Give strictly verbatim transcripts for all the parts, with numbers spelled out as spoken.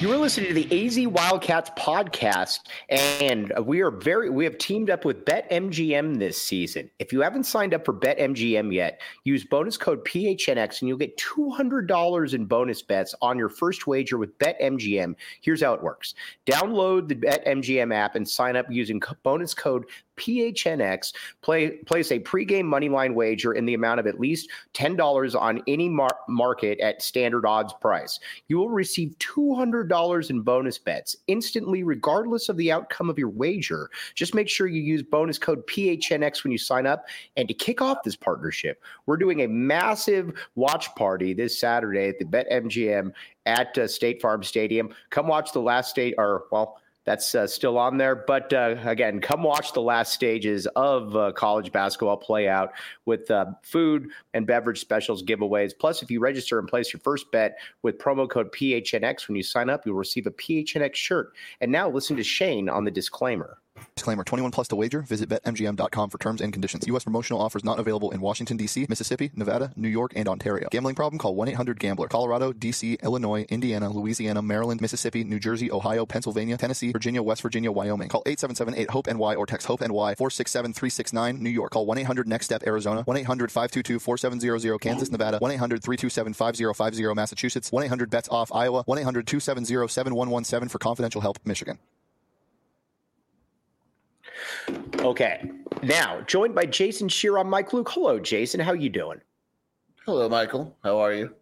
You are listening to the A Z Wildcats podcast, and we are very we have teamed up with BetMGM this season. If you haven't signed up for BetMGM yet, use bonus code P H N X and you'll get two hundred dollars in bonus bets on your first wager with BetMGM. Here's how it works. Download the BetMGM app and sign up using bonus code P H N X. Play, place a pregame moneyline wager in the amount of at least ten dollars on any mar- market at standard odds price. You will receive two hundred dollars in bonus bets instantly, regardless of the outcome of your wager. Just make sure you use bonus code P H N X when you sign up. And to kick off this partnership, we're doing a massive watch party this Saturday at the BetMGM at uh, State Farm Stadium. Come watch the last state, or well, That's uh, still on there. But uh, again, come watch the last stages of uh, college basketball play out with uh, food and beverage specials, giveaways. Plus, if you register and place your first bet with promo code P H N X when you sign up, you'll receive a P H N X shirt. And now listen to Shane on the disclaimer. Disclaimer, twenty-one plus to wager. Visit Bet M G M dot com for terms and conditions. U S promotional offers not available in Washington, D C, Mississippi, Nevada, New York, and Ontario. Gambling problem? Call one eight hundred gambler. Colorado, D C, Illinois, Indiana, Louisiana, Maryland, Mississippi, New Jersey, Ohio, Pennsylvania, Tennessee, Virginia, West Virginia, Wyoming. Call eight seven seven eight HOPE N Y or text HOPE N Y four six seven three six nine. New York. Call one eight hundred next step Arizona. one eight hundred five two two four seven zero zero Kansas, Nevada. one eight hundred three two seven five zero five zero Massachusetts. one eight hundred bets off Iowa. one eight hundred two seven zero seven one one seven for confidential help, Michigan. Okay, now joined by Jason Shear on Mike Luke. Hello, Jason. How you doing? Hello, Michael. How are you?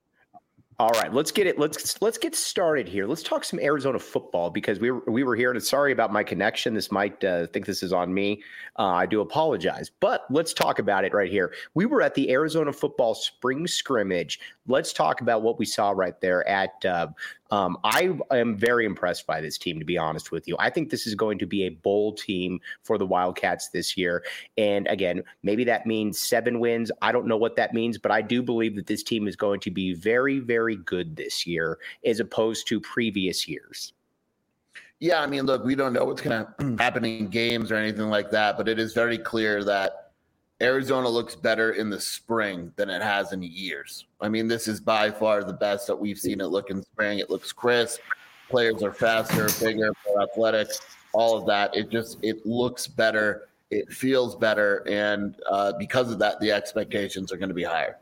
All right, let's get it. Let's let's get started here. Let's talk some Arizona football because we were we were here, and sorry about my connection. This might uh, think this is on me. Uh, I do apologize, but let's talk about it right here. We were at the Arizona football spring scrimmage. Let's talk about what we saw right there at. Uh, um, I am very impressed by this team, to be honest with you. I think this is going to be a bowl team for the Wildcats this year. And again, maybe that means seven wins. I don't know what that means, but I do believe that this team is going to be very, very good this year as opposed to previous years. Yeah, I mean, look, we don't know what's going to happen in games or anything like that, but it is very clear that Arizona looks better in the spring than it has in years. I mean, this is by far the best that we've seen it look in spring. It looks crisp. Players are faster, bigger, more athletic, all of that. It just, it looks better. It feels better. And uh, because of that, the expectations are going to be higher.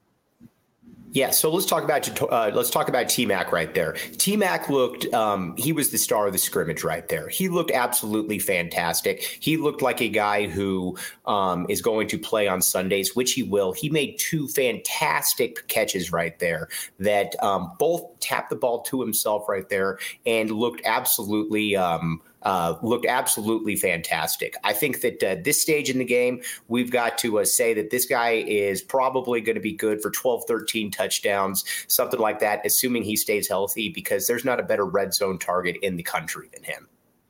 Yeah, so let's talk about uh, let's talk about T-Mac right there. T-Mac looked um, he was the star of the scrimmage right there. He looked absolutely fantastic. He looked like a guy who um, is going to play on Sundays, which he will. He made two fantastic catches right there that um, both tapped the ball to himself right there and looked absolutely um, Uh, looked absolutely fantastic. I think that uh, this stage in the game, we've got to uh, say that this guy is probably going to be good for twelve, thirteen touchdowns, something like that, assuming he stays healthy, because there's not a better red zone target in the country than him.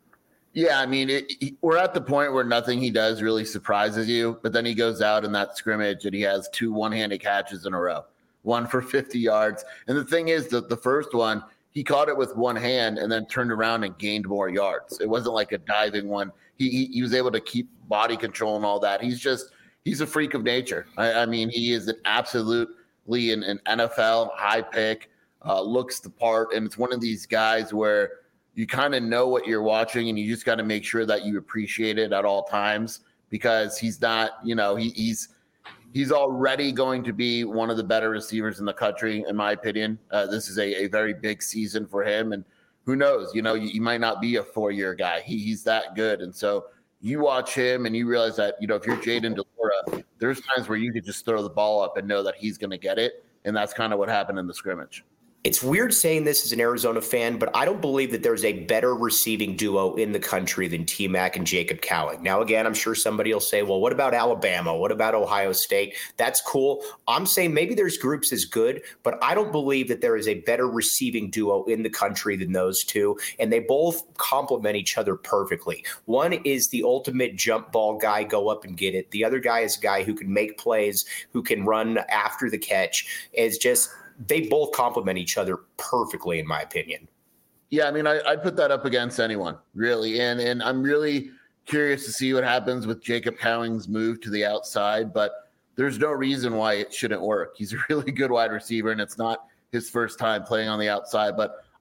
Yeah, I mean, it, he, we're at the point where nothing he does really surprises you, but then he goes out in that scrimmage and he has two one-handed catches in a row, one for fifty yards. And the thing is that the first one, he caught it with one hand and then turned around and gained more yards. It wasn't like a diving one. He he, he was able to keep body control and all that. He's just he's a freak of nature. I, I mean, he is an absolutely an, an N F L high pick, uh, looks the part, and it's one of these guys where you kind of know what you're watching and you just got to make sure that you appreciate it at all times, because he's not, you know, he, he's He's already going to be one of the better receivers in the country, in my opinion. Uh, this is a, a very big season for him. And who knows, you know, you, you might not be a four-year guy. He, he's that good. And so you watch him and you realize that, you know, if you're Jayden de Laura, there's times where you could just throw the ball up and know that he's going to get it. And that's kind of what happened in the scrimmage. It's weird saying this as an Arizona fan, but I don't believe that there's a better receiving duo in the country than T-Mac and Jacob Cowing. Now, again, I'm sure somebody will say, well, what about Alabama? What about Ohio State? That's cool. I'm saying maybe there's groups as good, but I don't believe that there is a better receiving duo in the country than those two, and they both complement each other perfectly. One is the ultimate jump ball guy, go up and get it. The other guy is a guy who can make plays, who can run after the catch. It's just – they both complement each other perfectly, in my opinion. Yeah, I mean, I, I'd put that up against anyone, really. And and I'm really curious to see what happens with Jacob Cowing's move to the outside, but there's no reason why it shouldn't work. He's a really good wide receiver, and it's not his first time playing on the outside. But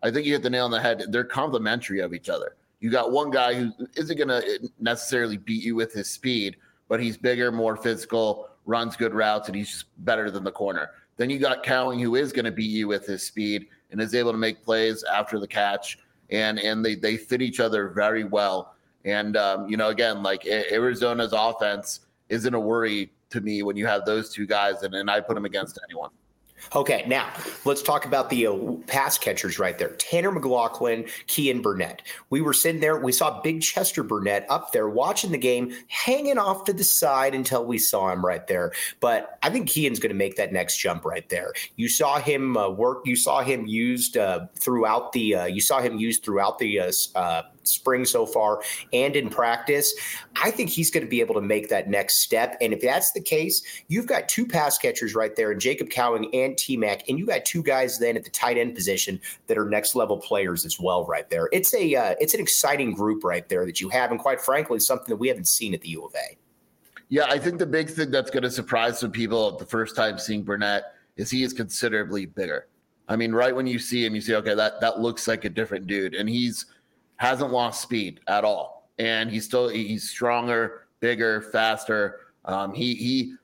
I think you hit the nail on the head. They're complementary of each other. You got one guy who isn't going to necessarily beat you with his speed, but he's bigger, more physical, runs good routes, and he's just better than the corner. Then you got Cowing, who is going to beat you with his speed and is able to make plays after the catch, and and they they fit each other very well. And um, you know, again, like Arizona's offense isn't a worry to me when you have those two guys, and, and I put them against anyone. Okay, now let's talk about the uh, pass catchers right there. Tanner McLaughlin, Kean Burnett. We were sitting there. We saw Big Chester Burnett up there watching the game, hanging off to the side until we saw him right there. But I think Kean's going to make that next jump right there. You saw him uh, work. You saw him used uh, throughout the. Uh, you saw him used throughout the uh, uh, spring so far and in practice. I think he's going to be able to make that next step. And if that's the case, you've got two pass catchers right there, and Jacob Cowing and T-Mac, and you got two guys then at the tight end position that are next level players as well right there. It's a uh, it's an exciting group right there that you have, and quite frankly, something that we haven't seen at the U of A. Yeah, I think the big thing that's going to surprise some people the first time seeing Burnett is he is considerably bigger. I mean, right when you see him, you say, okay, that that looks like a different dude, and he's hasn't lost speed at all, and he's still he's stronger, bigger, faster. Um, he he.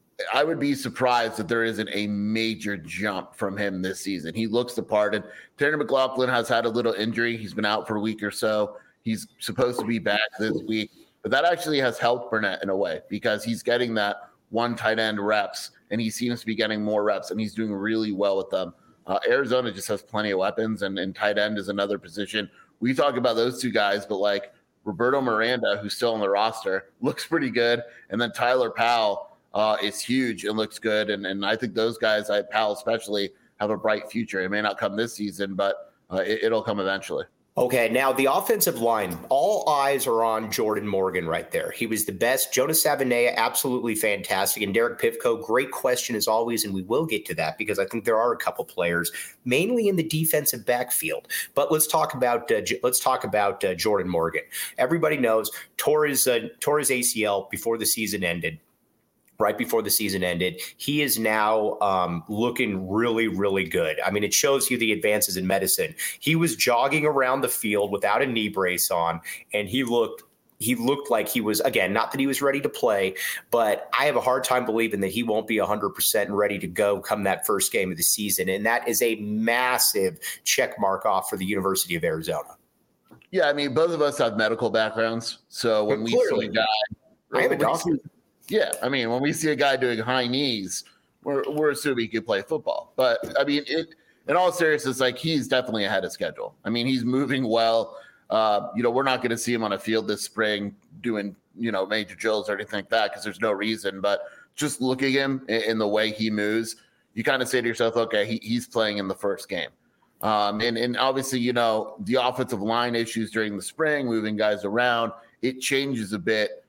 I would be surprised that there isn't a major jump from him this season. He looks the part, and Tanner McLaughlin has had a little injury. He's been out for a week or so. He's supposed to be back this week, but that actually has helped Burnett in a way because he's getting that one tight end reps, and he seems to be getting more reps, and he's doing really well with them. Uh, Arizona just has plenty of weapons, and, and tight end is another position. We talk about those two guys, but like Roberto Miranda, who's still on the roster, looks pretty good, and then Tyler Powell, Uh, is huge and looks good. And, and I think those guys, I Powell especially, have a bright future. It may not come this season, but uh, it, it'll come eventually. Okay, now the offensive line, all eyes are on Jordan Morgan right there. He was the best. Jonas Savaiinaea, absolutely fantastic. And Derek Pivko, great question as always, and we will get to that because I think there are a couple players, mainly in the defensive backfield. But let's talk about uh, let's talk about uh, Jordan Morgan. Everybody knows tore his, uh, tore his A C L before the season ended. Right before the season ended. He is now um, looking really, really good. I mean, it shows you the advances in medicine. He was jogging around the field without a knee brace on, and he looked he looked like he was, again, not that he was ready to play, but I have a hard time believing that he won't be one hundred percent ready to go come that first game of the season. And that is a massive check mark off for the University of Arizona. Yeah, I mean, both of us have medical backgrounds. So when we see a guy, I have a doctor. Yeah, I mean, when we see a guy doing high knees, we're we're assuming he could play football. But I mean, it in all seriousness, like he's definitely ahead of schedule. I mean, he's moving well. Uh, you know, we're not going to see him on a field this spring doing you know major drills or anything like that because there's no reason. But just looking at him in, in the way he moves, you kind of say to yourself, okay, he, he's playing in the first game. Um, and and obviously, you know, the offensive line issues during the spring, moving guys around, it changes a bit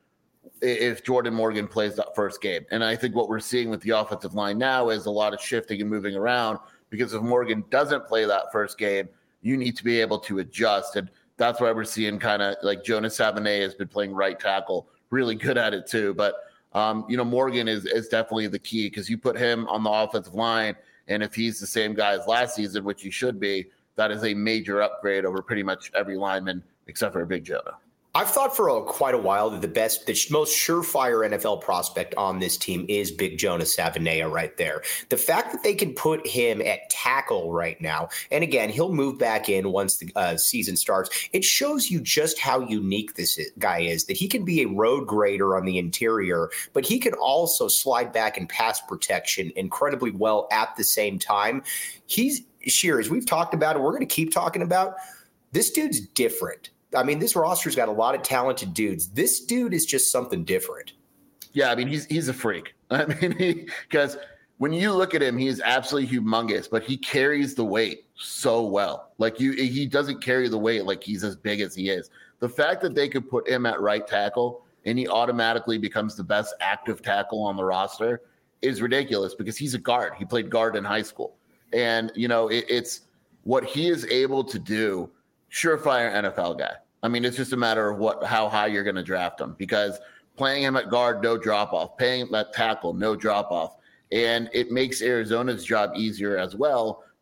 if Jordan Morgan plays that first game. And I think what we're seeing with the offensive line now is a lot of shifting and moving around because if Morgan doesn't play that first game, you need to be able to adjust. And that's why we're seeing kind of like Jonas Savaiinaea has been playing right tackle, really good at it too. But, um, you know, Morgan is, is definitely the key because you put him on the offensive line, and if he's the same guy as last season, which he should be, that is a major upgrade over pretty much every lineman except for Big Jonah. I've thought for a, quite a while that the best, the most surefire N F L prospect on this team is Big Jonas Savaiinaea right there. The fact that they can put him at tackle right now, and again, he'll move back in once the uh, season starts, it shows you just how unique this is, guy is, that he can be a road grader on the interior, but he can also slide back and pass protection incredibly well at the same time. He's, Shears, we've talked about it, we're going to keep talking about, this dude's different. I mean, this roster's got a lot of talented dudes. This dude is just something different. Yeah, I mean, he's he's a freak. I mean, because when you look at him, he is absolutely humongous, but he carries the weight so well. Like you, he doesn't carry the weight like he's as big as he is. The fact that they could put him at right tackle and he automatically becomes the best active tackle on the roster is ridiculous because he's a guard. He played guard in high school. And, you know, it, it's what he is able to do. Surefire N F L guy. I mean, it's just a matter of what, how high you're going to draft him because playing him at guard, no drop off, playing him at tackle, no drop off. And it makes Arizona's job easier as well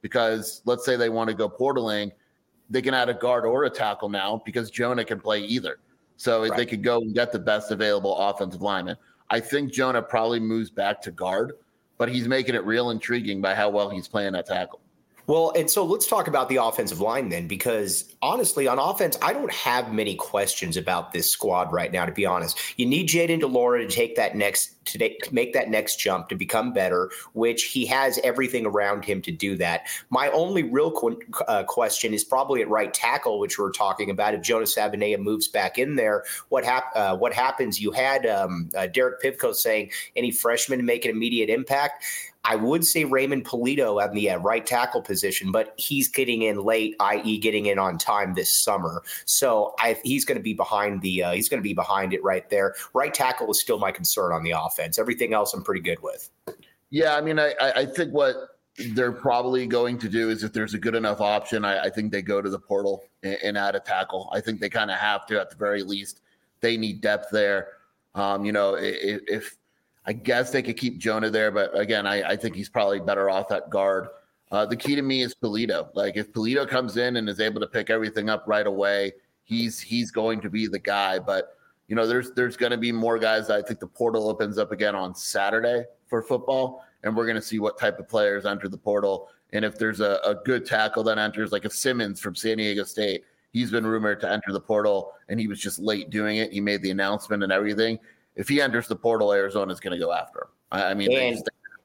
because let's say they want to go portaling, they can add a guard or a tackle now because Jonah can play either. So right. they could go and get the best available offensive lineman. I think Jonah probably moves back to guard, but he's making it real intriguing by how well he's playing at tackle. Well, and so let's talk about the offensive line then, because honestly, on offense, I don't have many questions about this squad right now, to be honest. You need Jayden de Laura to take that next to make that next jump to become better, which he has everything around him to do that. My only real qu- uh, question is probably at right tackle, which we're talking about. If Jonas Savaiinaea moves back in there, what hap- uh, what happens? You had um, uh, Derek Pivko saying any freshman to make an immediate impact. I would say Raymond Polito at the uh, right tackle position, but he's getting in late, that is getting in on time this summer. So I, he's going to be behind the uh, he's going to be behind it right there. Right tackle is still my concern on the offense. Everything else I'm pretty good with. Yeah, I mean, I, I think what they're probably going to do is if there's a good enough option, I, I think they go to the portal and, and add a tackle. I think they kind of have to at the very least. They need depth there. Um, you know, if, if I guess they could keep Jonah there, but again, I, I think he's probably better off at guard. Uh, the key to me is Polito. Like if Polito comes in and is able to pick everything up right away, he's he's going to be the guy. But you know, there's there's going to be more guys. I think the portal opens up again on Saturday for football, and we're going to see what type of players enter the portal. And if there's a, a good tackle that enters, like if Simmons from San Diego State, he's been rumored to enter the portal, and he was just late doing it. He made the announcement and everything. If he enters the portal, Arizona's going to go after him. I, I mean, and,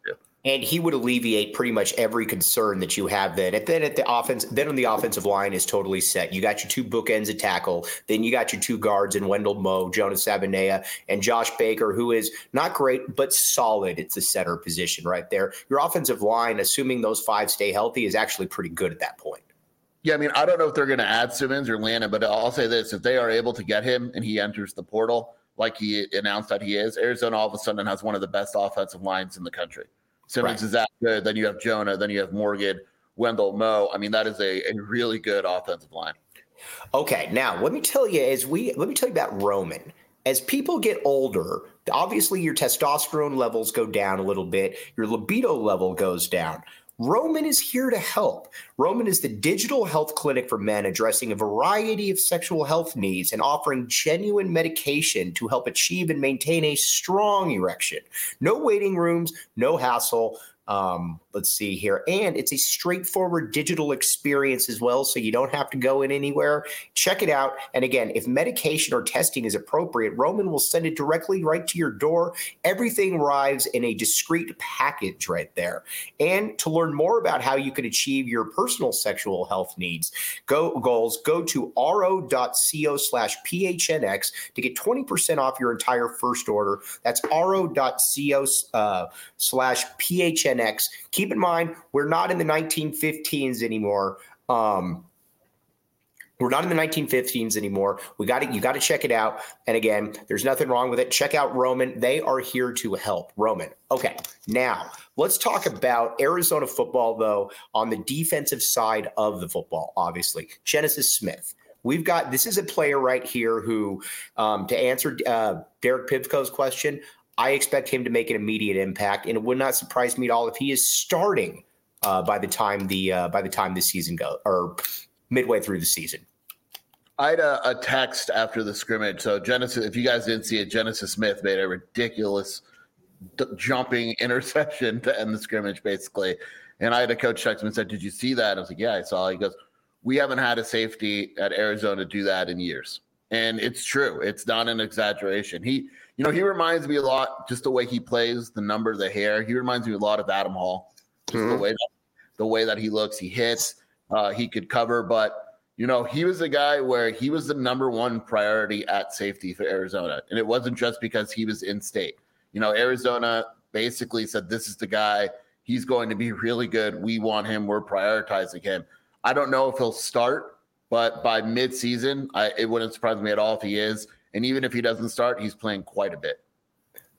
and he would alleviate pretty much every concern that you have. Then, and then at the offense, then on the offensive line is totally set. You got your two bookends at tackle. Then you got your two guards in Wendell Moe, Jonas Savaiinaea, and Josh Baker, who is not great but solid. It's the center position right there. Your offensive line, assuming those five stay healthy, is actually pretty good at that point. Yeah, I mean, I don't know if they're going to add Simmons or Landon, but I'll say this: if they are able to get him and he enters the portal, like he announced that he is, Arizona all of a sudden has one of the best offensive lines in the country. Simmons right. is that good. Then you have Jonah. Then you have Morgan, Wendell Moe. I mean, that is a, a really good offensive line. Okay, now let me tell you, as we let me tell you about Roman. As people get older, obviously your testosterone levels go down a little bit. Your libido level goes down. Roman is here to help. Roman is the digital health clinic for men addressing a variety of sexual health needs and offering genuine medication to help achieve and maintain a strong erection. No waiting rooms, no hassle. Um, let's see here. And it's a straightforward digital experience as well, so you don't have to go in anywhere. Check it out. And again, if medication or testing is appropriate, Roman will send it directly right to your door. Everything arrives in a discreet package right there. And to learn more about how you can achieve your personal sexual health needs, go goals, go to ro.co slash PHNX to get twenty percent off your entire first order. That's ro.co uh, slash PHNX. Keep in mind, we're not in the nineteen fifteens anymore. Um, we're not in the nineteen fifteens anymore. We got it. You got to check it out. And again, there's nothing wrong with it. Check out Roman. They are here to help. Roman. Okay. Now let's talk about Arizona football, though, on the defensive side of the football, obviously. Genesis Smith. We've got, this is a player right here who, um, to answer uh, Derek Pivko's question, I expect him to make an immediate impact, and it would not surprise me at all if he is starting uh, by the time the uh, by the time the season goes, or midway through the season. I had a, a text after the scrimmage. So Genesis, if you guys didn't see it, Genesis Smith made a ridiculous d- jumping interception to end the scrimmage, basically. And I had a coach text him and said, "Did you see that?" I was like, "Yeah, I saw." He goes, "We haven't had a safety at Arizona do that in years," and it's true. It's not an exaggeration. He. You know, he reminds me a lot, just the way he plays, the number, the hair. He reminds me a lot of Adam Hall, just mm-hmm. the way that, the way that he looks. He hits, uh, he could cover, but you know, he was a guy where he was the number one priority at safety for Arizona, and it wasn't just because he was in state. You know, Arizona basically said, "This is the guy. He's going to be really good. We want him. We're prioritizing him." I don't know if he'll start, but by mid-season, I, it wouldn't surprise me at all if he is. And even if he doesn't start, he's playing quite a bit.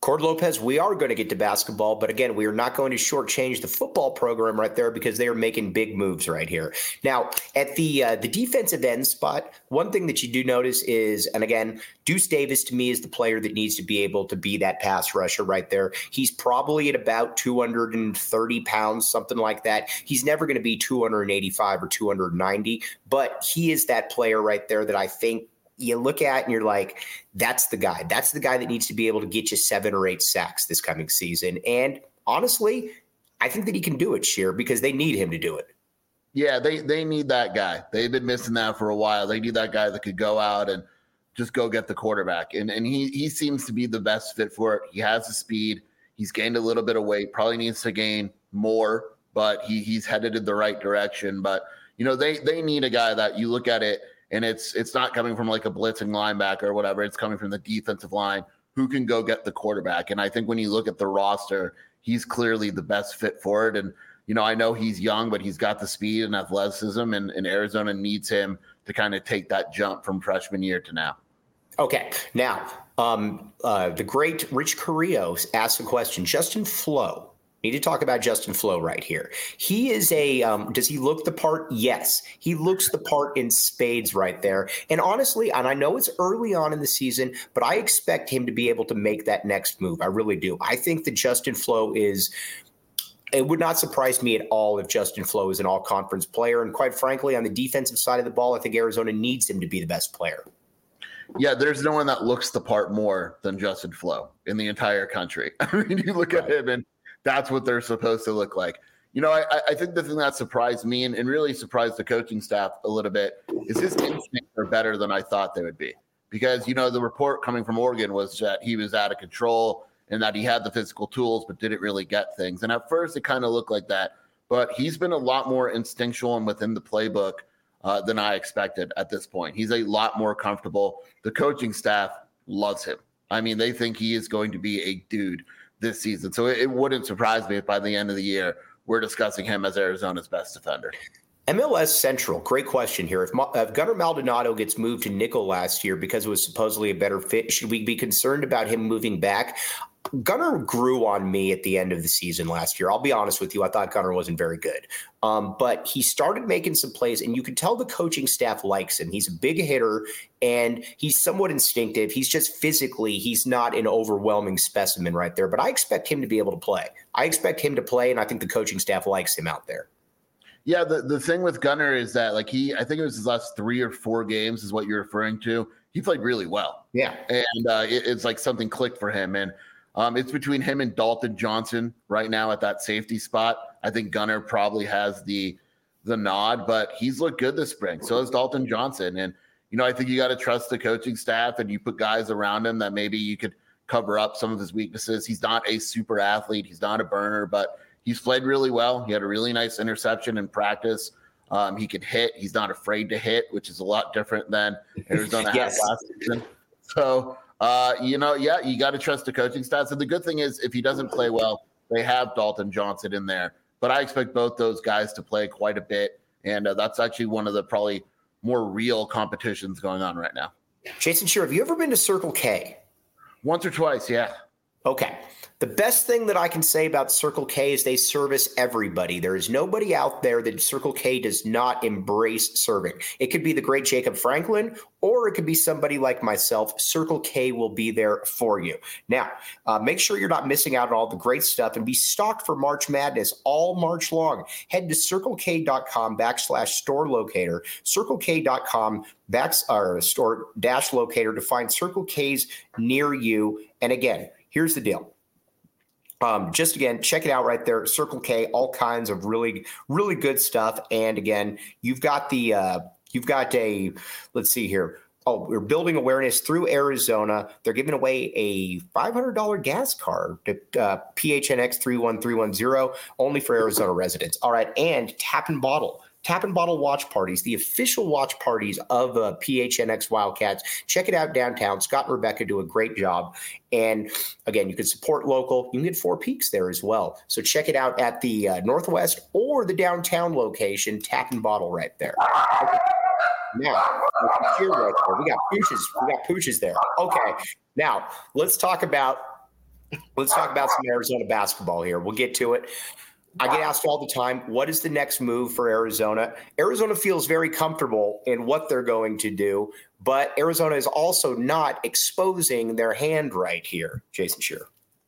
Cord Lopez, we are going to get to basketball, but again, we are not going to shortchange the football program right there because they are making big moves right here. Now, at the uh, the defensive end spot, one thing that you do notice is, and again, Deuce Davis to me is the player that needs to be able to be that pass rusher right there. He's probably at about two hundred thirty pounds, something like that. He's never going to be two hundred eighty-five or two hundred ninety, but he is that player right there that I think you look at and you're like, that's the guy. That's the guy that needs to be able to get you seven or eight sacks this coming season. And honestly, I think that he can do it, Scheer, because they need him to do it. Yeah, they they need that guy. They've been missing that for a while. They need that guy that could go out and just go get the quarterback. And and he he seems to be the best fit for it. He has the speed. He's gained a little bit of weight. Probably needs to gain more, but he he's headed in the right direction. But, you know, they they need a guy that you look at it, and it's it's not coming from like a blitzing linebacker or whatever. It's coming from the defensive line who can go get the quarterback. And I think when you look at the roster, he's clearly the best fit for it. And, you know, I know he's young, but he's got the speed and athleticism, and, and Arizona needs him to kind of take that jump from freshman year to now. Okay. Now, um, uh, the great Rich Carrillo asked a question. Justin Flo. Need to talk about Justin Flo right here. He is a, um, does he look the part? Yes. He looks the part in spades right there. And honestly, and I know it's early on in the season, but I expect him to be able to make that next move. I really do. I think that Justin Flo is, it would not surprise me at all if Justin Flo is an all-conference player. And quite frankly, on the defensive side of the ball, I think Arizona needs him to be the best player. Yeah, there's no one that looks the part more than Justin Flo in the entire country. I mean, you look at him and that's what they're supposed to look like. You know, I, I think the thing that surprised me and, and really surprised the coaching staff a little bit is his instincts are better than I thought they would be. Because, you know, the report coming from Oregon was that he was out of control and that he had the physical tools but didn't really get things. And at first it kind of looked like that. But he's been a lot more instinctual and within the playbook uh, than I expected at this point. He's a lot more comfortable. The coaching staff loves him. I mean, they think he is going to be a dude this season. So it, it wouldn't surprise me if by the end of the year, we're discussing him as Arizona's best defender. M L S Central, great question here. If, if Gunnar Maldonado gets moved to nickel last year because it was supposedly a better fit, should we be concerned about him moving back? Gunnar grew on me at the end of the season last year. I'll be honest with you. I thought Gunnar wasn't very good. Um, but he started making some plays, and you can tell the coaching staff likes him. He's a big hitter, and he's somewhat instinctive. He's just physically, he's not an overwhelming specimen right there. But I expect him to be able to play. I expect him to play, and I think the coaching staff likes him out there. Yeah, the, the thing with Gunnar is that, like, he, I think it was his last three or four games is what you're referring to. He played really well. Yeah. And uh, it, it's like something clicked for him. And um, it's between him and Dalton Johnson right now at that safety spot. I think Gunnar probably has the the nod, but he's looked good this spring. So has Dalton Johnson. And, you know, I think you got to trust the coaching staff, and you put guys around him that maybe you could cover up some of his weaknesses. He's not a super athlete. He's not a burner, but he's played really well. He had a really nice interception in practice. Um, he could hit. He's not afraid to hit, which is a lot different than Arizona yes. had last season. So, uh, you know, yeah, you got to trust the coaching staff. So the good thing is if he doesn't play well, they have Dalton Johnson in there. But I expect both those guys to play quite a bit. And uh, that's actually one of the probably more real competitions going on right now. Jason Scheer, have you ever been to Circle K? Once or twice, yeah. Okay. The best thing that I can say about Circle K is they service everybody. There is nobody out there that Circle K does not embrace serving. It could be the great Jacob Franklin, or it could be somebody like myself. Circle K will be there for you. Now, uh, make sure you're not missing out on all the great stuff and be stocked for March Madness all March long. Head to circlek.com backslash store locator, circlek.com back, or store dash locator to find Circle K's near you. And again, here's the deal. Um, just again, check it out right there. Circle K, all kinds of really, really good stuff. And again, you've got the, uh, you've got a, let's see here. Oh, we're building awareness through Arizona. They're giving away a five hundred dollars gas card to uh, P H N X three one three one zero, only for Arizona residents. All right. And Tap and Bottle. Tap and Bottle watch parties, the official watch parties of uh, P H N X Wildcats. Check it out downtown. Scott and Rebecca do a great job. And again, you can support local. You can get Four Peaks there as well. So check it out at the uh, Northwest or the downtown location, Tap and Bottle right there. Okay. Now, here right there. We got pooches. We got pooches there. Okay. Now, let's talk about Let's talk about some Arizona basketball here. We'll get to it. I get asked all the time, what is the next move for Arizona? Arizona feels very comfortable in what they're going to do, but Arizona is also not exposing their hand right here, Jason Scheer.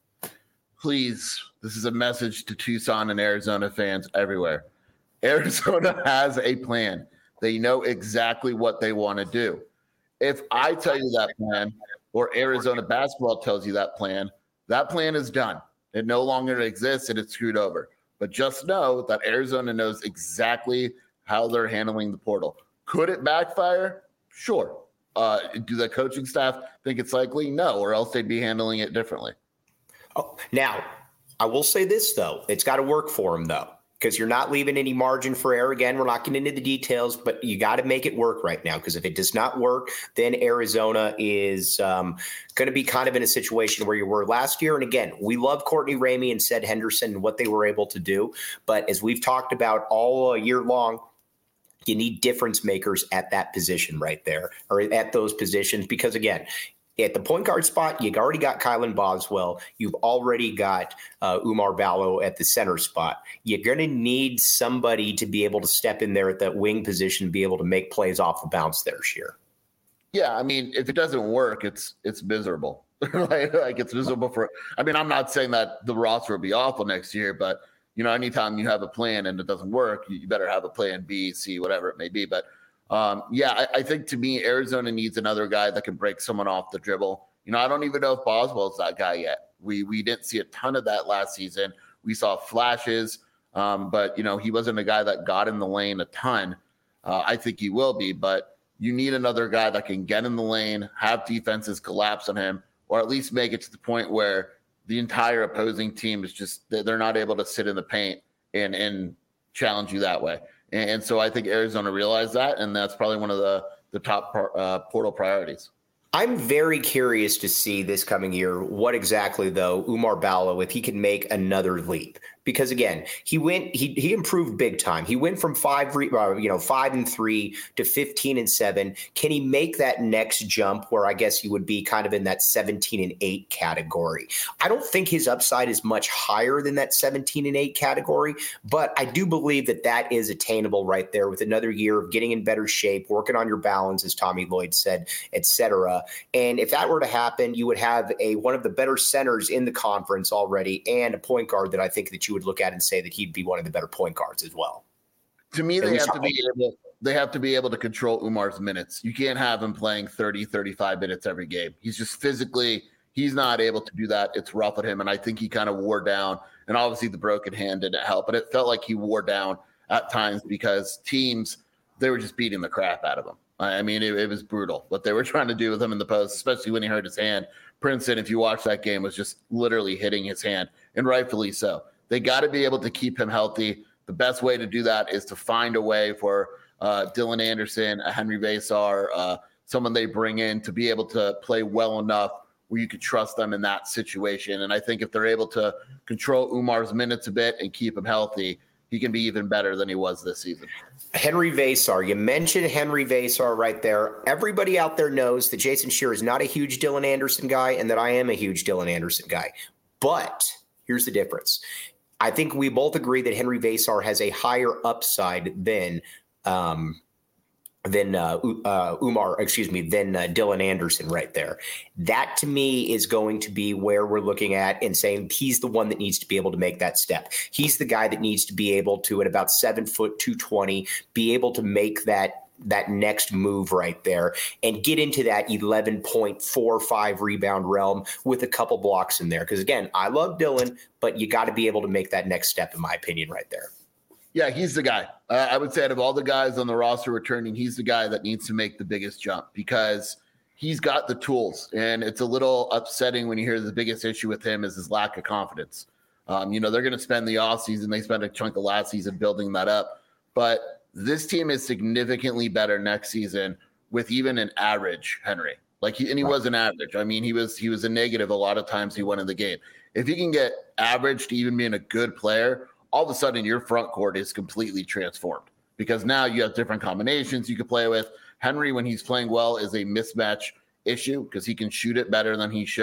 Please, this is a message to Tucson and Arizona fans everywhere. Arizona has a plan. They know exactly what they want to do. If I tell you that plan, or Arizona basketball tells you that plan, that plan is done. It no longer exists and it's screwed over. But just know that Arizona knows exactly how they're handling the portal. Could it backfire? Sure. Uh, do the coaching staff think it's likely? No, or else they'd be handling it differently. Oh, now, I will say this, though. It's got to work for them, though, because you're not leaving any margin for error. Again, we're not getting into the details, but you got to make it work right now, because if it does not work, then Arizona is um, going to be kind of in a situation where you were last year. And again, we love Courtney Ramey and Seth Henderson and what they were able to do. But as we've talked about all year long, you need difference makers at that position right there, or at those positions, because again, at the point guard spot, you've already got Kylan Boswell. You've already got uh, Oumar Ballo at the center spot. You're going to need somebody to be able to step in there at that wing position, be able to make plays off the bounce there, Scheer. Yeah, I mean, if it doesn't work, it's it's miserable. like, like it's miserable for – I mean, I'm not saying that the roster will be awful next year, but, you know, anytime you have a plan and it doesn't work, you, you better have a plan B, C, whatever it may be. But – Um, yeah, I, I think to me, Arizona needs another guy that can break someone off the dribble. You know, I don't even know if Boswell's that guy yet. We we didn't see a ton of that last season. We saw flashes, um, but, you know, he wasn't a guy that got in the lane a ton. Uh, I think he will be, but you need another guy that can get in the lane, have defenses collapse on him, or at least make it to the point where the entire opposing team is just, they're not able to sit in the paint and, and challenge you that way. And so I think Arizona realized that, and that's probably one of the, the top uh, portal priorities. I'm very curious to see this coming year what exactly, though, Oumar Ballo, if he can make another leap. Because again, he went, he he improved big time. He went from five, uh, you know, five and three to fifteen and seven. Can he make that next jump where I guess he would be kind of in that seventeen and eight category? I don't think his upside is much higher than that seventeen and eight category, but I do believe that that is attainable right there with another year of getting in better shape, working on your balance, as Tommy Lloyd said, et cetera. And if that were to happen, you would have a one of the better centers in the conference already, and a point guard that I think that you would look at and say that he'd be one of the better point guards as well. To me, they have to be able, they have to be able to control Oumar's minutes. You can't have him playing thirty, thirty-five minutes every game. He's just physically, he's not able to do that. It's rough at him. And I think he kind of wore down, and obviously the broken hand didn't help, but it felt like he wore down at times because teams, they were just beating the crap out of him. I mean, it, it was brutal what they were trying to do with him in the post, especially when he hurt his hand. Princeton, if you watch that game, was just literally hitting his hand, and rightfully so. They got to be able to keep him healthy. The best way to do that is to find a way for uh, Dylan Anderson, a Henry Vesar, uh, someone they bring in to be able to play well enough where you could trust them in that situation. And I think if they're able to control Oumar's minutes a bit and keep him healthy, he can be even better than he was this season. Henry Vesar. You mentioned Henry Vesar right there. Everybody out there knows that Jason Scheer is not a huge Dylan Anderson guy and that I am a huge Dylan Anderson guy. But here's the difference. I think we both agree that Henry Vesar has a higher upside than um, than uh, uh, Oumar, excuse me, than uh, Dylan Anderson right there. That to me is going to be where we're looking at and saying he's the one that needs to be able to make that step. He's the guy that needs to be able to, at about seven foot two twenty, be able to make that that next move right there and get into that eleven point four five rebound realm with a couple blocks in there. Because again, I love Dylan, but you got to be able to make that next step, in my opinion, right there. Yeah, he's the guy. Uh, I would say out of all the guys on the roster returning, he's the guy that needs to make the biggest jump because he's got the tools. And it's a little upsetting when you hear the biggest issue with him is his lack of confidence. Um, you know, they're going to spend the offseason. They spent a chunk of last season building that up. But this team is significantly better next season with even an average Henry. Like he, and he right. was an average. I mean, he was he was a negative a lot of times he went in the game. If he can get average to even being a good player, all of a sudden your front court is completely transformed because now you have different combinations you can play with. Henry, when he's playing well, is a mismatch issue because he can shoot it better than he showed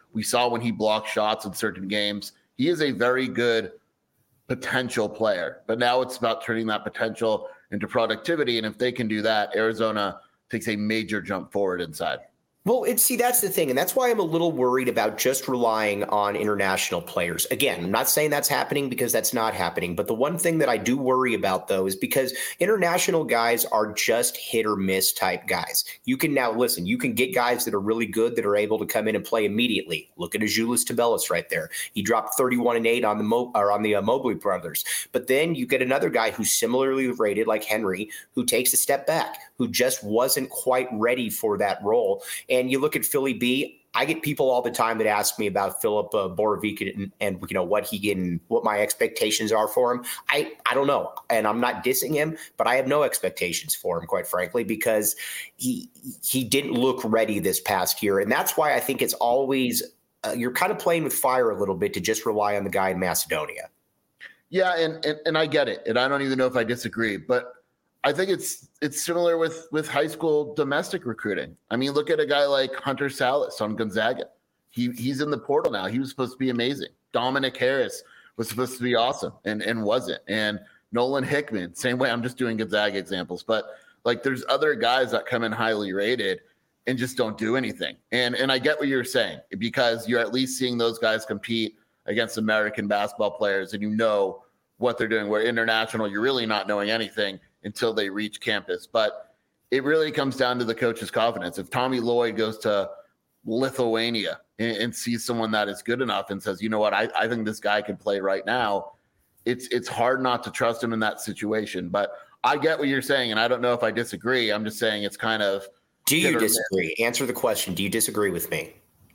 We saw when he blocked shots in certain games. He is a very good potential player, but now it's about turning that potential into productivity. And if they can do that, Arizona takes a major jump forward inside. Well, and see, that's the thing. And that's why I'm a little worried about just relying on international players. Again, I'm not saying that's happening because that's not happening. But the one thing that I do worry about, though, is because international guys are just hit or miss type guys. You can now listen, you can get guys that are really good that are able to come in and play immediately. Look at Azuolas Tubelis right there. He dropped thirty-one and eight on the Mo- or on the uh, Mobley brothers. But then you get another guy who's similarly rated like Henry, who takes a step back, who just wasn't quite ready for that role. And you look at Philly B, I get people all the time that ask me about Philip uh, Borovic and, and, you know, what he can, what my expectations are for him. I, I don't know. And I'm not dissing him, but I have no expectations for him, quite frankly, because he, he didn't look ready this past year. And that's why I think it's always, uh, you're kind of playing with fire a little bit to just rely on the guy in Macedonia. Yeah. And, and, and I get it. And I don't even know if I disagree, but I think it's it's similar with with high school domestic recruiting. I mean, look at a guy like Hunter Salas on Gonzaga. He he's in the portal now. He was supposed to be amazing. Dominic Harris was supposed to be awesome and and wasn't. And Nolan Hickman, same way. I'm just doing Gonzaga examples, but like there's other guys that come in highly rated and just don't do anything. And and I get what you're saying, because you're at least seeing those guys compete against American basketball players and you know what they're doing. Where international, you're really not knowing anything until they reach campus. But it really comes down to the coach's confidence. If Tommy Lloyd goes to Lithuania and, and sees someone that is good enough and says, you know what, I, I think this guy can play right now, it's it's hard not to trust him in that situation. But I get what you're saying, and I don't know if I disagree. I'm just saying it's kind of... Do you disagree? Answer the question. Do you disagree with me?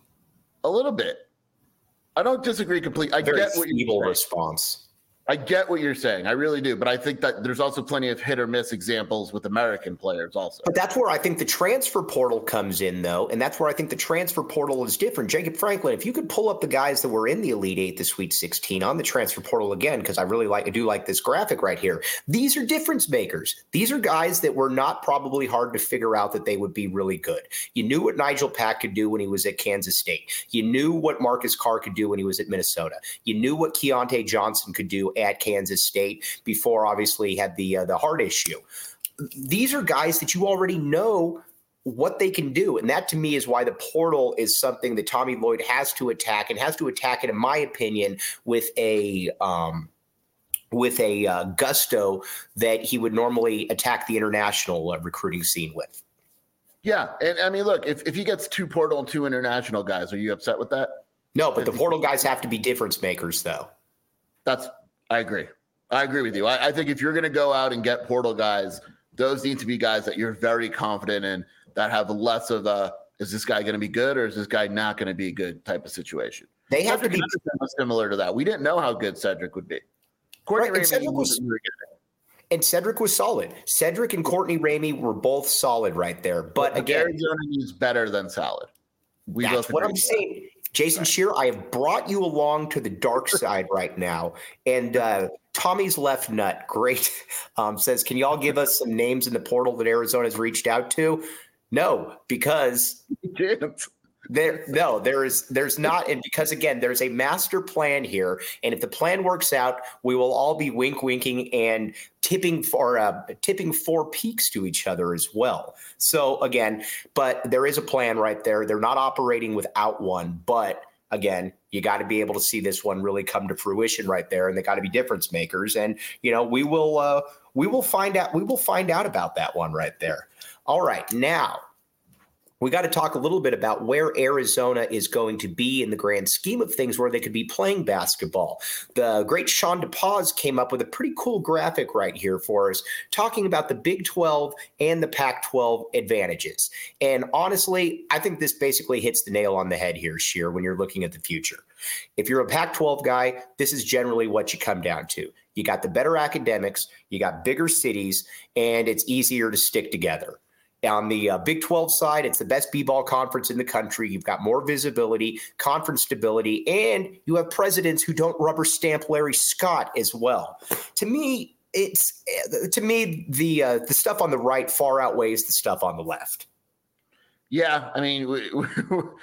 A little bit. I don't disagree completely. I Very get what feeble you're response. I get what you're saying. I really do. But I think that there's also plenty of hit or miss examples with American players also. But that's where I think the transfer portal comes in, though. And that's where I think the transfer portal is different. Jacob Franklin, if you could pull up the guys that were in the Elite Eight, the Sweet sixteen on the transfer portal again, because I really like, I do like this graphic right here. These are difference makers. These are guys that were not probably hard to figure out that they would be really good. You knew what Nigel Pack could do when he was at Kansas State. You knew what Marcus Carr could do when he was at Minnesota. You knew what Keontae Johnson could do at Kansas State before obviously he had the uh, the heart issue. These are guys that you already know what they can do. And that to me is why the portal is something that Tommy Lloyd has to attack, and has to attack it, in my opinion, with a um, with a uh, gusto that he would normally attack the international uh, recruiting scene with. Yeah. And I mean, look, if, if he gets two portal and two international guys, are you upset with that? No, but the portal guys have to be difference makers, though. That's, I agree. I agree with you. I, I think if you're going to go out and get portal guys, those need to be guys that you're very confident in, that have less of a, is this guy going to be good or is this guy not going to be good type of situation. They have Cedric to be similar to that. We didn't know how good Cedric would be. Courtney right, and, Ramey Cedric was, and Cedric was solid. Cedric and Courtney Ramey were both solid right there. But, but again, Arizona is better than solid. We that's what I'm saying. Jason right. Shear, I have brought you along to the dark side right now. And uh, Tommy's Left Nut, great, um, says, can y'all give us some names in the portal that Arizona's reached out to? No, because there, no, there is, there's not. And because, again, there's a master plan here. And if the plan works out, we will all be wink winking and tipping for uh, tipping four peaks to each other as well. So, again, but there is a plan right there. They're not operating without one. But, again, you got to be able to see this one really come to fruition right there. And they got to be difference makers. And, you know, we will uh, we will find out. We will find out about that one right there. All right. Now, we got to talk a little bit about where Arizona is going to be in the grand scheme of things, where they could be playing basketball. The great Sean DePaz came up with a pretty cool graphic right here for us, talking about the Big twelve and the Pac twelve advantages. And honestly, I think this basically hits the nail on the head here, Sheer, when you're looking at the future. If you're a Pac twelve guy, this is generally what you come down to. You got the better academics, you got bigger cities, and it's easier to stick together. On the uh, Big twelve side, it's the best B-ball conference in the country. You've got more visibility, conference stability, and you have presidents who don't rubber stamp Larry Scott as well. To me, it's to me the uh, the stuff on the right far outweighs the stuff on the left. Yeah, I mean, we, we,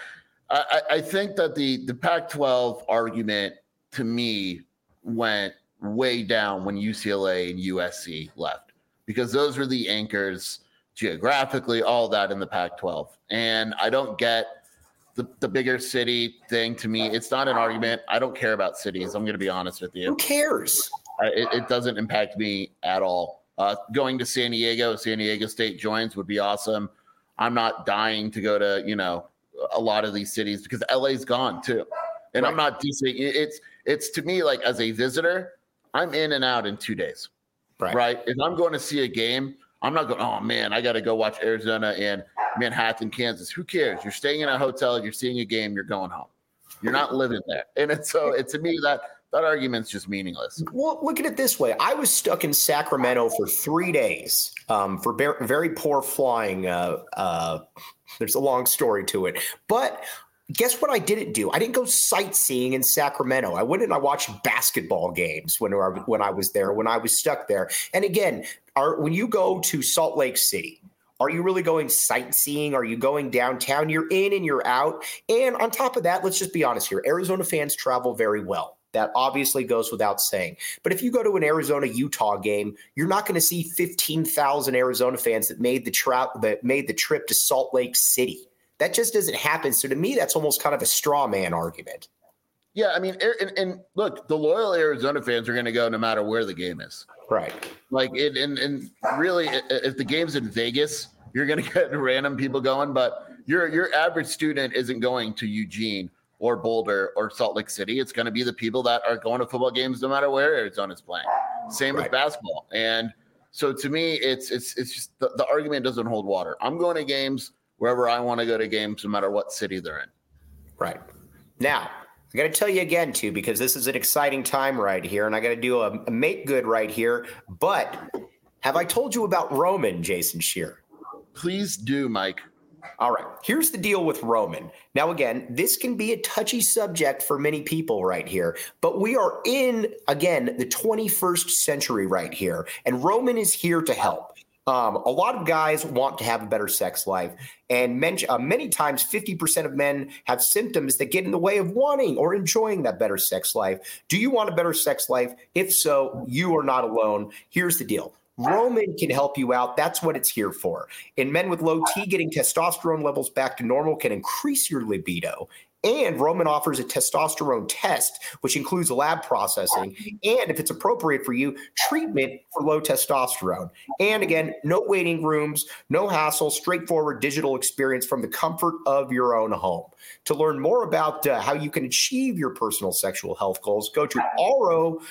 I, I think that the, the Pac twelve argument to me went way down when U C L A and U S C left, because those were the anchors geographically, all that in the Pac twelve. And I don't get the, the bigger city thing. To me, it's not an argument. I don't care about cities. I'm going to be honest with you. Who cares? I, it, it doesn't impact me at all. Uh, going to San Diego, San Diego State joins would be awesome. I'm not dying to go to, you know, a lot of these cities because L A's gone too. And right. I'm not decent. It's, it's to me, like as a visitor, I'm in and out in two days. Right. Right. If I'm going to see a game, I'm not going, oh man, I got to go watch Arizona and Manhattan, Kansas. Who cares? You're staying in a hotel, you're seeing a game, you're going home. You're not living there. And it's so it, to me, that that argument's just meaningless. Well, look at it this way. I was stuck in Sacramento for three days um, for very, very poor flying. Uh, uh, there's a long story to it. But guess what I didn't do? I didn't go sightseeing in Sacramento. I went and I watched basketball games when, when I was there, when I was stuck there. And again, are, when you go to Salt Lake City, are you really going sightseeing? Are you going downtown? You're in and you're out. And on top of that, let's just be honest here. Arizona fans travel very well. That obviously goes without saying. But if you go to an Arizona-Utah game, you're not going to see fifteen thousand Arizona fans that made the tra- that made the trip to Salt Lake City. That just doesn't happen. So to me, that's almost kind of a straw man argument. Yeah, I mean, and, and look, the loyal Arizona fans are going to go no matter where the game is. Right. Like, it, and, and really, if the game's in Vegas, you're going to get random people going. But your your average student isn't going to Eugene or Boulder or Salt Lake City. It's going to be the people that are going to football games no matter where Arizona's playing. Same right. with basketball. And so to me, it's it's it's just the, the argument doesn't hold water. I'm going to games wherever I want to go to games, no matter what city they're in. Right. Now, I got to tell you again, too, because this is an exciting time right here, and I got to do a, a make good right here. But have I told you about Roman, Jason Scheer? Please do, Mike. All right. Here's the deal with Roman. Now, again, this can be a touchy subject for many people right here, but we are in, again, the twenty-first century right here, and Roman is here to help. Um, a lot of guys want to have a better sex life, and men, uh, many times fifty percent of men have symptoms that get in the way of wanting or enjoying that better sex life. Do you want a better sex life? If so, you are not alone. Here's the deal. Roman can help you out. That's what it's here for. In men with low T, getting testosterone levels back to normal can increase your libido. And Roman offers a testosterone test, which includes lab processing, and if it's appropriate for you, treatment for low testosterone. And again, no waiting rooms, no hassle, straightforward digital experience from the comfort of your own home. To learn more about uh, how you can achieve your personal sexual health goals, go to aro.co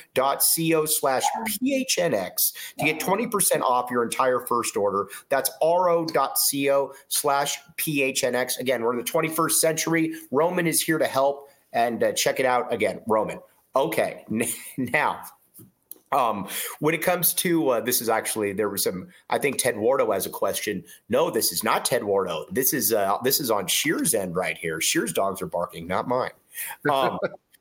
slash PHNX to get twenty percent off your entire first order. That's aro.co slash PHNX. Again, we're in the twenty-first century. Roman is here to help, and uh, check it out again, Roman. Okay, now, um, when it comes to uh, this is actually there was some. I think Ted Wardo has a question. No, this is not Ted Wardo. This is uh, this is on Scheer's end right here. Scheer's dogs are barking, not mine. Um,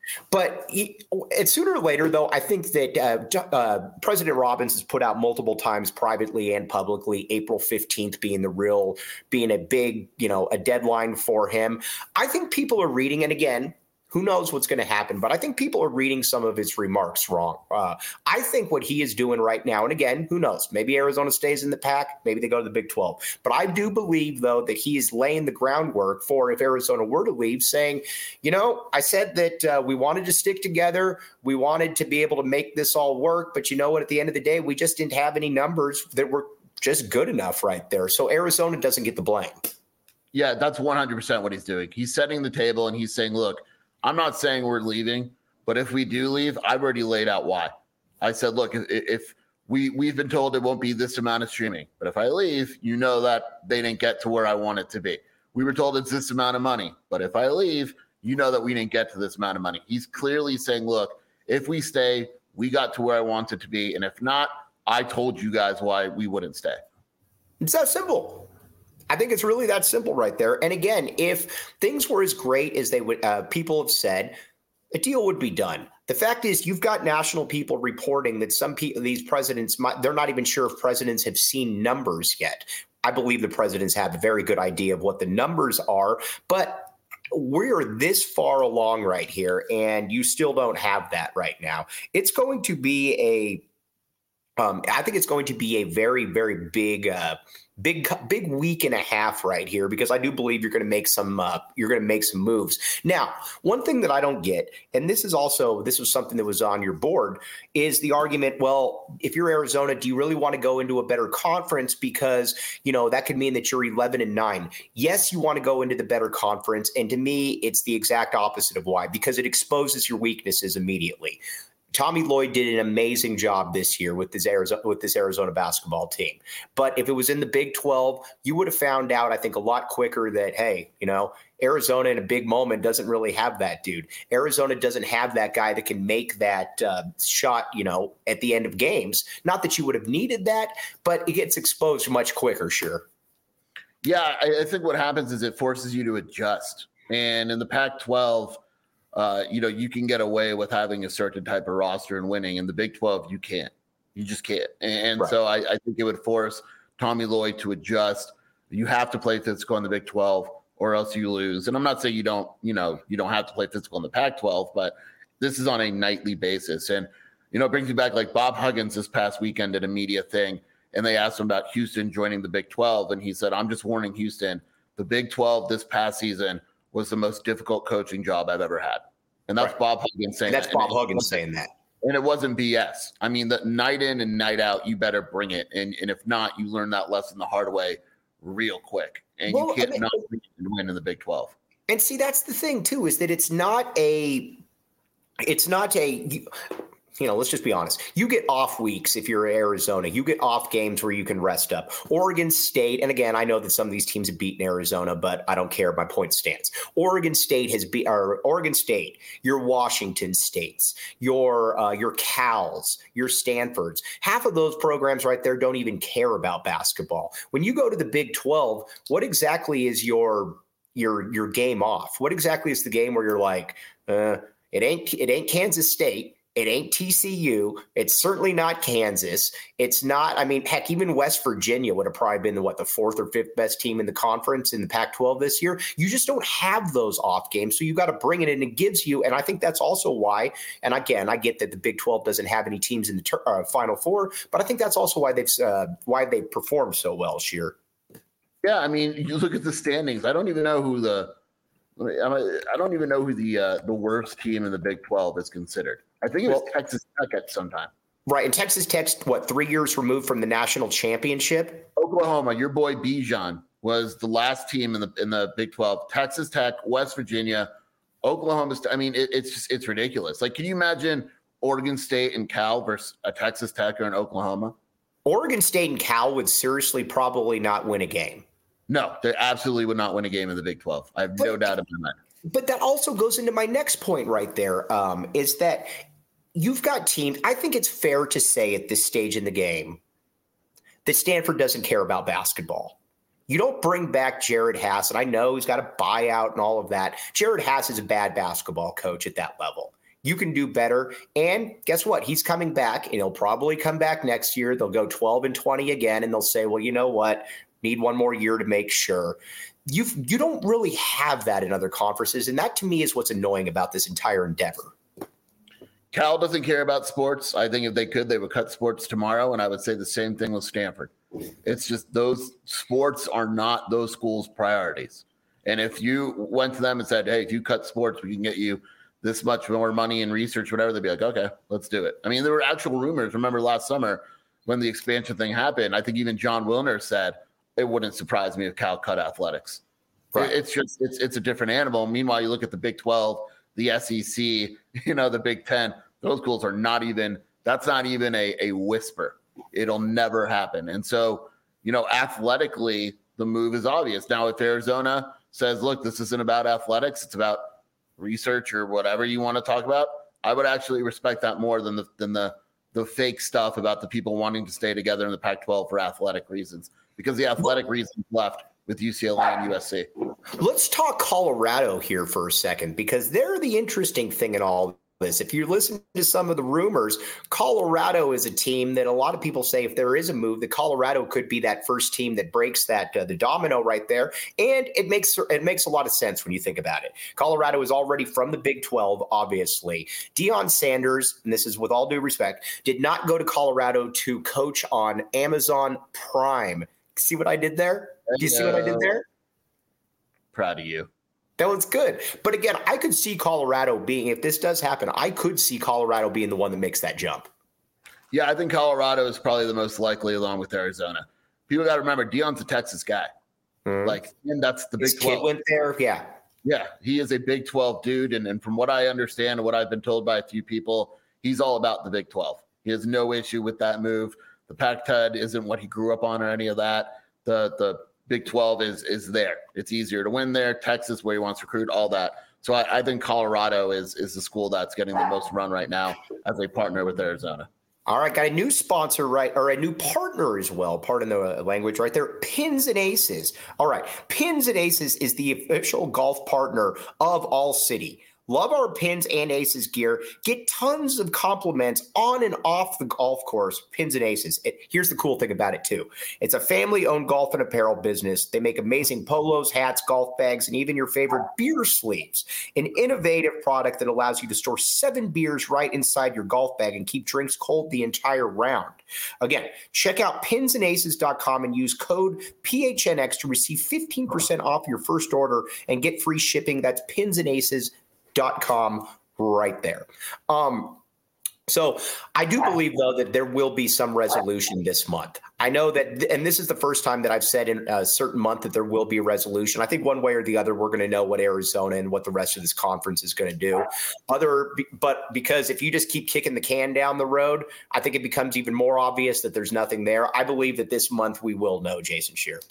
But he, and sooner or later, though, I think that uh, uh, President Robbins has put out multiple times privately and publicly, April fifteenth being the real, being a big, you know, a deadline for him. I think people are reading, and again, who knows what's going to happen, but I think people are reading some of his remarks wrong. Uh, I think what he is doing right now, and again, who knows, maybe Arizona stays in the pack, maybe they go to the Big twelve. But I do believe, though, that he is laying the groundwork for if Arizona were to leave, saying, you know, I said that uh, we wanted to stick together. We wanted to be able to make this all work. But you know what, at the end of the day, we just didn't have any numbers that were just good enough right there. So Arizona doesn't get the blame. Yeah, that's one hundred percent what he's doing. He's setting the table and he's saying, look, I'm not saying we're leaving, but if we do leave, I've already laid out why. I said, look, if we, we've been told it won't be this amount of streaming, but if I leave, you know that they didn't get to where I want it to be. We were told it's this amount of money, but if I leave, you know that we didn't get to this amount of money. He's clearly saying, look, if we stay, we got to where I want it to be. And if not, I told you guys why we wouldn't stay. It's that simple. I think it's really that simple right there. And again, if things were as great as they would, uh, people have said, a deal would be done. The fact is, you've got national people reporting that some people, these presidents, might, they're not even sure if presidents have seen numbers yet. I believe the presidents have a very good idea of what the numbers are, but we're this far along right here, and you still don't have that right now. It's going to be a, um, I think it's going to be a very, very big, uh, big, big week and a half right here, because I do believe you're going to make some, uh, you're going to make some moves. Now, one thing that I don't get, and this is also, this was something that was on your board, is the argument, well, if you're Arizona, do you really want to go into a better conference? Because, you know, that could mean that you're eleven and nine. Yes, you want to go into the better conference. And to me, it's the exact opposite of why, because it exposes your weaknesses immediately. Tommy Lloyd did an amazing job this year with this Arizona with this Arizona basketball team. But if it was in the Big twelve, you would have found out, I think, a lot quicker that, hey, you know, Arizona in a big moment doesn't really have that dude. Arizona doesn't have that guy that can make that uh, shot, you know, at the end of games. Not that you would have needed that, but it gets exposed much quicker, sure. Yeah, I, I think what happens is it forces you to adjust. And in the Pac twelve, Uh, you know, you can get away with having a certain type of roster and winning. In the Big twelve, you can't. You just can't. And right. so I, I think it would force Tommy Lloyd to adjust. You have to play physical in the Big twelve or else you lose. And I'm not saying you don't, you know, you don't have to play physical in the Pac twelve, but this is on a nightly basis. And, you know, it brings me back like Bob Huggins this past weekend did a media thing, and they asked him about Houston joining the Big twelve. And he said, I'm just warning Houston, the Big twelve this past season was the most difficult coaching job I've ever had. And that's right. Bob Huggins saying and that's that. Bob Huggins saying that. And it wasn't B S. I mean, the night in and night out, you better bring it. And, and if not, you learn that lesson the hard way real quick. And well, you can't I mean, not win in the Big twelve. And see, that's the thing, too, is that it's not a – it's not a – you know, let's just be honest. You get off weeks if you're Arizona. You get off games where you can rest up. Oregon State, and again, I know that some of these teams have beaten Arizona, but I don't care. My point stands. Oregon State has beat, or Oregon State, your Washington States, your uh, your Cals, your Stanfords. Half of those programs right there don't even care about basketball. When you go to the Big twelve, what exactly is your your your game off? What exactly is the game where you're like, uh, it ain't it ain't Kansas State. It ain't T C U. It's certainly not Kansas. It's not, I mean, heck, even West Virginia would have probably been the, what, the fourth or fifth best team in the conference in the Pac twelve this year. You just don't have those off games. So you got to bring it in. It gives you, and I think that's also why, and again, I get that the Big twelve doesn't have any teams in the ter- uh, Final Four, but I think that's also why they've, uh, why they performed so well, Sheer. Yeah, I mean, you look at the standings. I don't even know who the, I don't even know who the uh, the worst team in the Big twelve is considered. I think it was well, Texas Tech at some time. Right. And Texas Tech's, what, three years removed from the national championship? Oklahoma, your boy Bijan, was the last team in the in the Big twelve. Texas Tech, West Virginia, Oklahoma. I mean, it, it's just, it's ridiculous. Like, can you imagine Oregon State and Cal versus a Texas Tech or an Oklahoma? Oregon State and Cal would seriously probably not win a game. No, they absolutely would not win a game in the Big twelve. I have but, no doubt in my mind. But that also goes into my next point right there, um, is that you've got teams. I think it's fair to say at this stage in the game that Stanford doesn't care about basketball. You don't bring back Jared Hass, and I know he's got a buyout and all of that. Jared Hass is a bad basketball coach at that level. You can do better. And guess what? He's coming back, and he'll probably come back next year. They'll go twelve and twenty again, and they'll say, well, you know what? Need one more year to make sure. You've, you don't really have that in other conferences, and that to me is what's annoying about this entire endeavor. Cal doesn't care about sports. I think if they could, they would cut sports tomorrow, and I would say the same thing with Stanford. It's just those sports are not those schools' priorities. And if you went to them and said, hey, if you cut sports, we can get you this much more money in research, whatever, they'd be like, okay, let's do it. I mean, there were actual rumors. Remember last summer when the expansion thing happened, I think even John Wilner said, it wouldn't surprise me if Cal cut athletics. Right. It's just it's it's a different animal. Meanwhile, you look at the Big twelve, the S E C, you know, the Big Ten. Those schools are not even. That's not even a a whisper. It'll never happen. And so, you know, athletically, the move is obvious. Now, if Arizona says, "Look, this isn't about athletics; it's about research or whatever you want to talk about," I would actually respect that more than the than the the fake stuff about the people wanting to stay together in the Pac twelve for athletic reasons. Because the athletic reasons left with U C L A and U S C. Let's talk Colorado here for a second, because they're the interesting thing in all this. If you listen to some of the rumors, Colorado is a team that a lot of people say if there is a move, that Colorado could be that first team that breaks that uh, the domino right there. And it makes it makes a lot of sense when you think about it. Colorado is already from the Big twelve, obviously. Deion Sanders, and this is with all due respect, did not go to Colorado to coach on Amazon Prime. See what I did there? Do you see what I did there? Proud of you. That was good. But again, I could see Colorado being, if this does happen, I could see Colorado being the one that makes that jump. Yeah, I think Colorado is probably the most likely along with Arizona. People got to remember, Deion's a Texas guy. Mm-hmm. Like, and that's the His Big twelve. Kid went there, yeah. Yeah, he is a Big twelve dude. And, and from what I understand and what I've been told by a few people, he's all about the Big twelve. He has no issue with that move. The Pac ten is what he grew up on or any of that. The the Big twelve is is there. It's easier to win there. Texas, where he wants to recruit, all that. So I, I think Colorado is is the school that's getting the most run right now as a partner with Arizona. All right, got a new sponsor, right, or a new partner as well. Pardon the language right there. Pins and Aces. All right, Pins and Aces is the official golf partner of All City. Love our Pins and Aces gear. Get tons of compliments on and off the golf course. Pins and Aces. It, here's the cool thing about it, too. It's a family-owned golf and apparel business. They make amazing polos, hats, golf bags, and even your favorite beer sleeves. An innovative product that allows you to store seven beers right inside your golf bag and keep drinks cold the entire round. Again, check out pins and aces dot com and use code P H N X to receive fifteen percent off your first order and get free shipping. That's pins and aces dot com right there. Um, so I do believe, though, that there will be some resolution this month. I know that, and this is the first time that I've said in a certain month that there will be a resolution. I think one way or the other, we're going to know what Arizona and what the rest of this conference is going to do. Other, but because if you just keep kicking the can down the road, I think it becomes even more obvious that there's nothing there. I believe that this month we will know, Jason Scheer.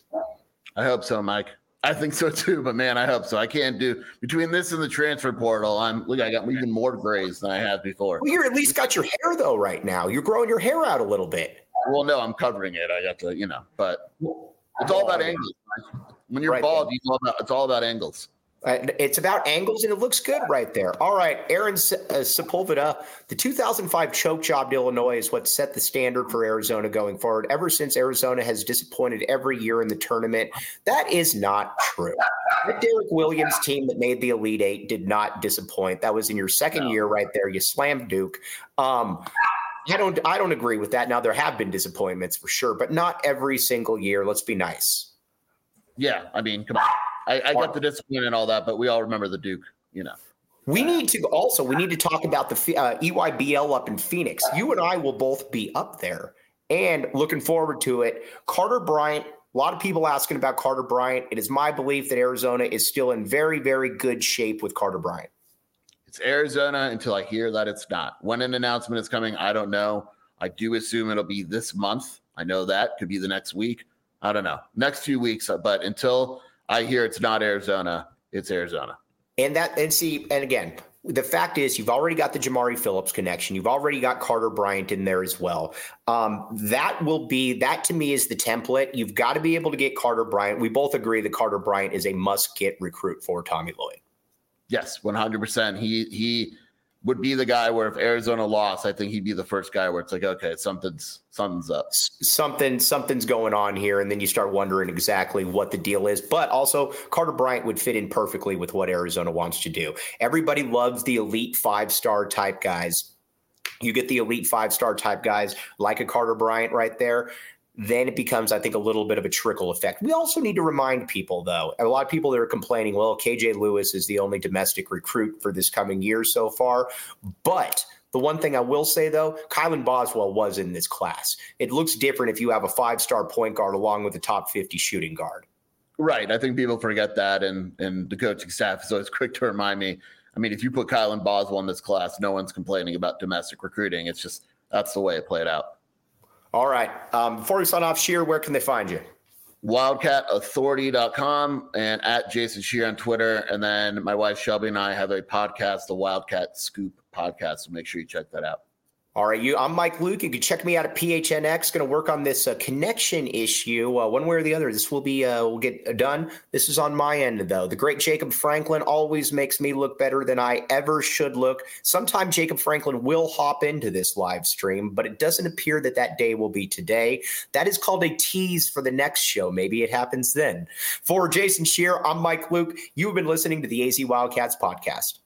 I hope so, Mike. I think so too, but man, I hope so. I can't do between this and the transfer portal. I'm look, I got even more grays than I had before. Well, you're at least got your hair though right now. You're growing your hair out a little bit. Well, no, I'm covering it. I got to, you know, but it's all about angles. When you're right bald, it's all about, it's all about angles. Uh, it's about angles, and it looks good right there. All right, Aaron uh, Sepulveda, the two thousand five choke job to Illinois is what set the standard for Arizona going forward. Ever since Arizona has disappointed every year in the tournament, that is not true. The Derek Williams team that made the Elite Eight did not disappoint. That was in your second no. year right there. You slammed Duke. Um, I don't, I don't agree with that. Now, there have been disappointments for sure, but not every single year. Let's be nice. Yeah, I mean, come on. I, I got the discipline and all that, but we all remember the Duke, you know. We need to also, we need to talk about the uh, E Y B L up in Phoenix. You and I will both be up there and looking forward to it. Carter Bryant, a lot of people asking about Carter Bryant. It is my belief that Arizona is still in very, very good shape with Carter Bryant. It's Arizona until I hear that it's not. When an announcement is coming, I don't know. I do assume it'll be this month. I know that. Could be the next week. I don't know. Next few weeks, but until I hear it's not Arizona, it's Arizona. And that, and see, and again, the fact is you've already got the Jamari Phillips connection. You've already got Carter Bryant in there as well. Um, that will be, that to me is the template. You've got to be able to get Carter Bryant. We both agree that Carter Bryant is a must-get recruit for Tommy Lloyd. Yes, one hundred percent. He, he would be the guy where if Arizona lost, I think he'd be the first guy where it's like, okay, something's something's up. Something something's going on here, and then you start wondering exactly what the deal is. But also, Carter Bryant would fit in perfectly with what Arizona wants to do. Everybody loves the elite five-star type guys. You get the elite five-star type guys like a Carter Bryant right there. Then it becomes, I think, a little bit of a trickle effect. We also need to remind people, though, a lot of people that are complaining, well, K J Lewis is the only domestic recruit for this coming year so far. But the one thing I will say, though, Kylan Boswell was in this class. It looks different if you have a five-star point guard along with a top fifty shooting guard. Right. I think people forget that, and, and the coaching staff is always quick to remind me. I mean, if you put Kylan Boswell in this class, no one's complaining about domestic recruiting. It's just that's the way it played out. All right. Um, before we sign off, Scheer, where can they find you? wildcat authority dot com and at Jason Scheer on Twitter. And then my wife Shelby and I have a podcast, the Wildcat Scoop podcast. So make sure you check that out. All right, you. I'm Mike Luke. You can check me out at P H N X. Going to work on this uh, connection issue, uh, one way or the other. This will be uh, will get done. This is on my end, though. The great Jacob Franklin always makes me look better than I ever should look. Sometime Jacob Franklin will hop into this live stream, but it doesn't appear that that day will be today. That is called a tease for the next show. Maybe it happens then. For Jason Scheer, I'm Mike Luke. You've been listening to the A Z Wildcats podcast.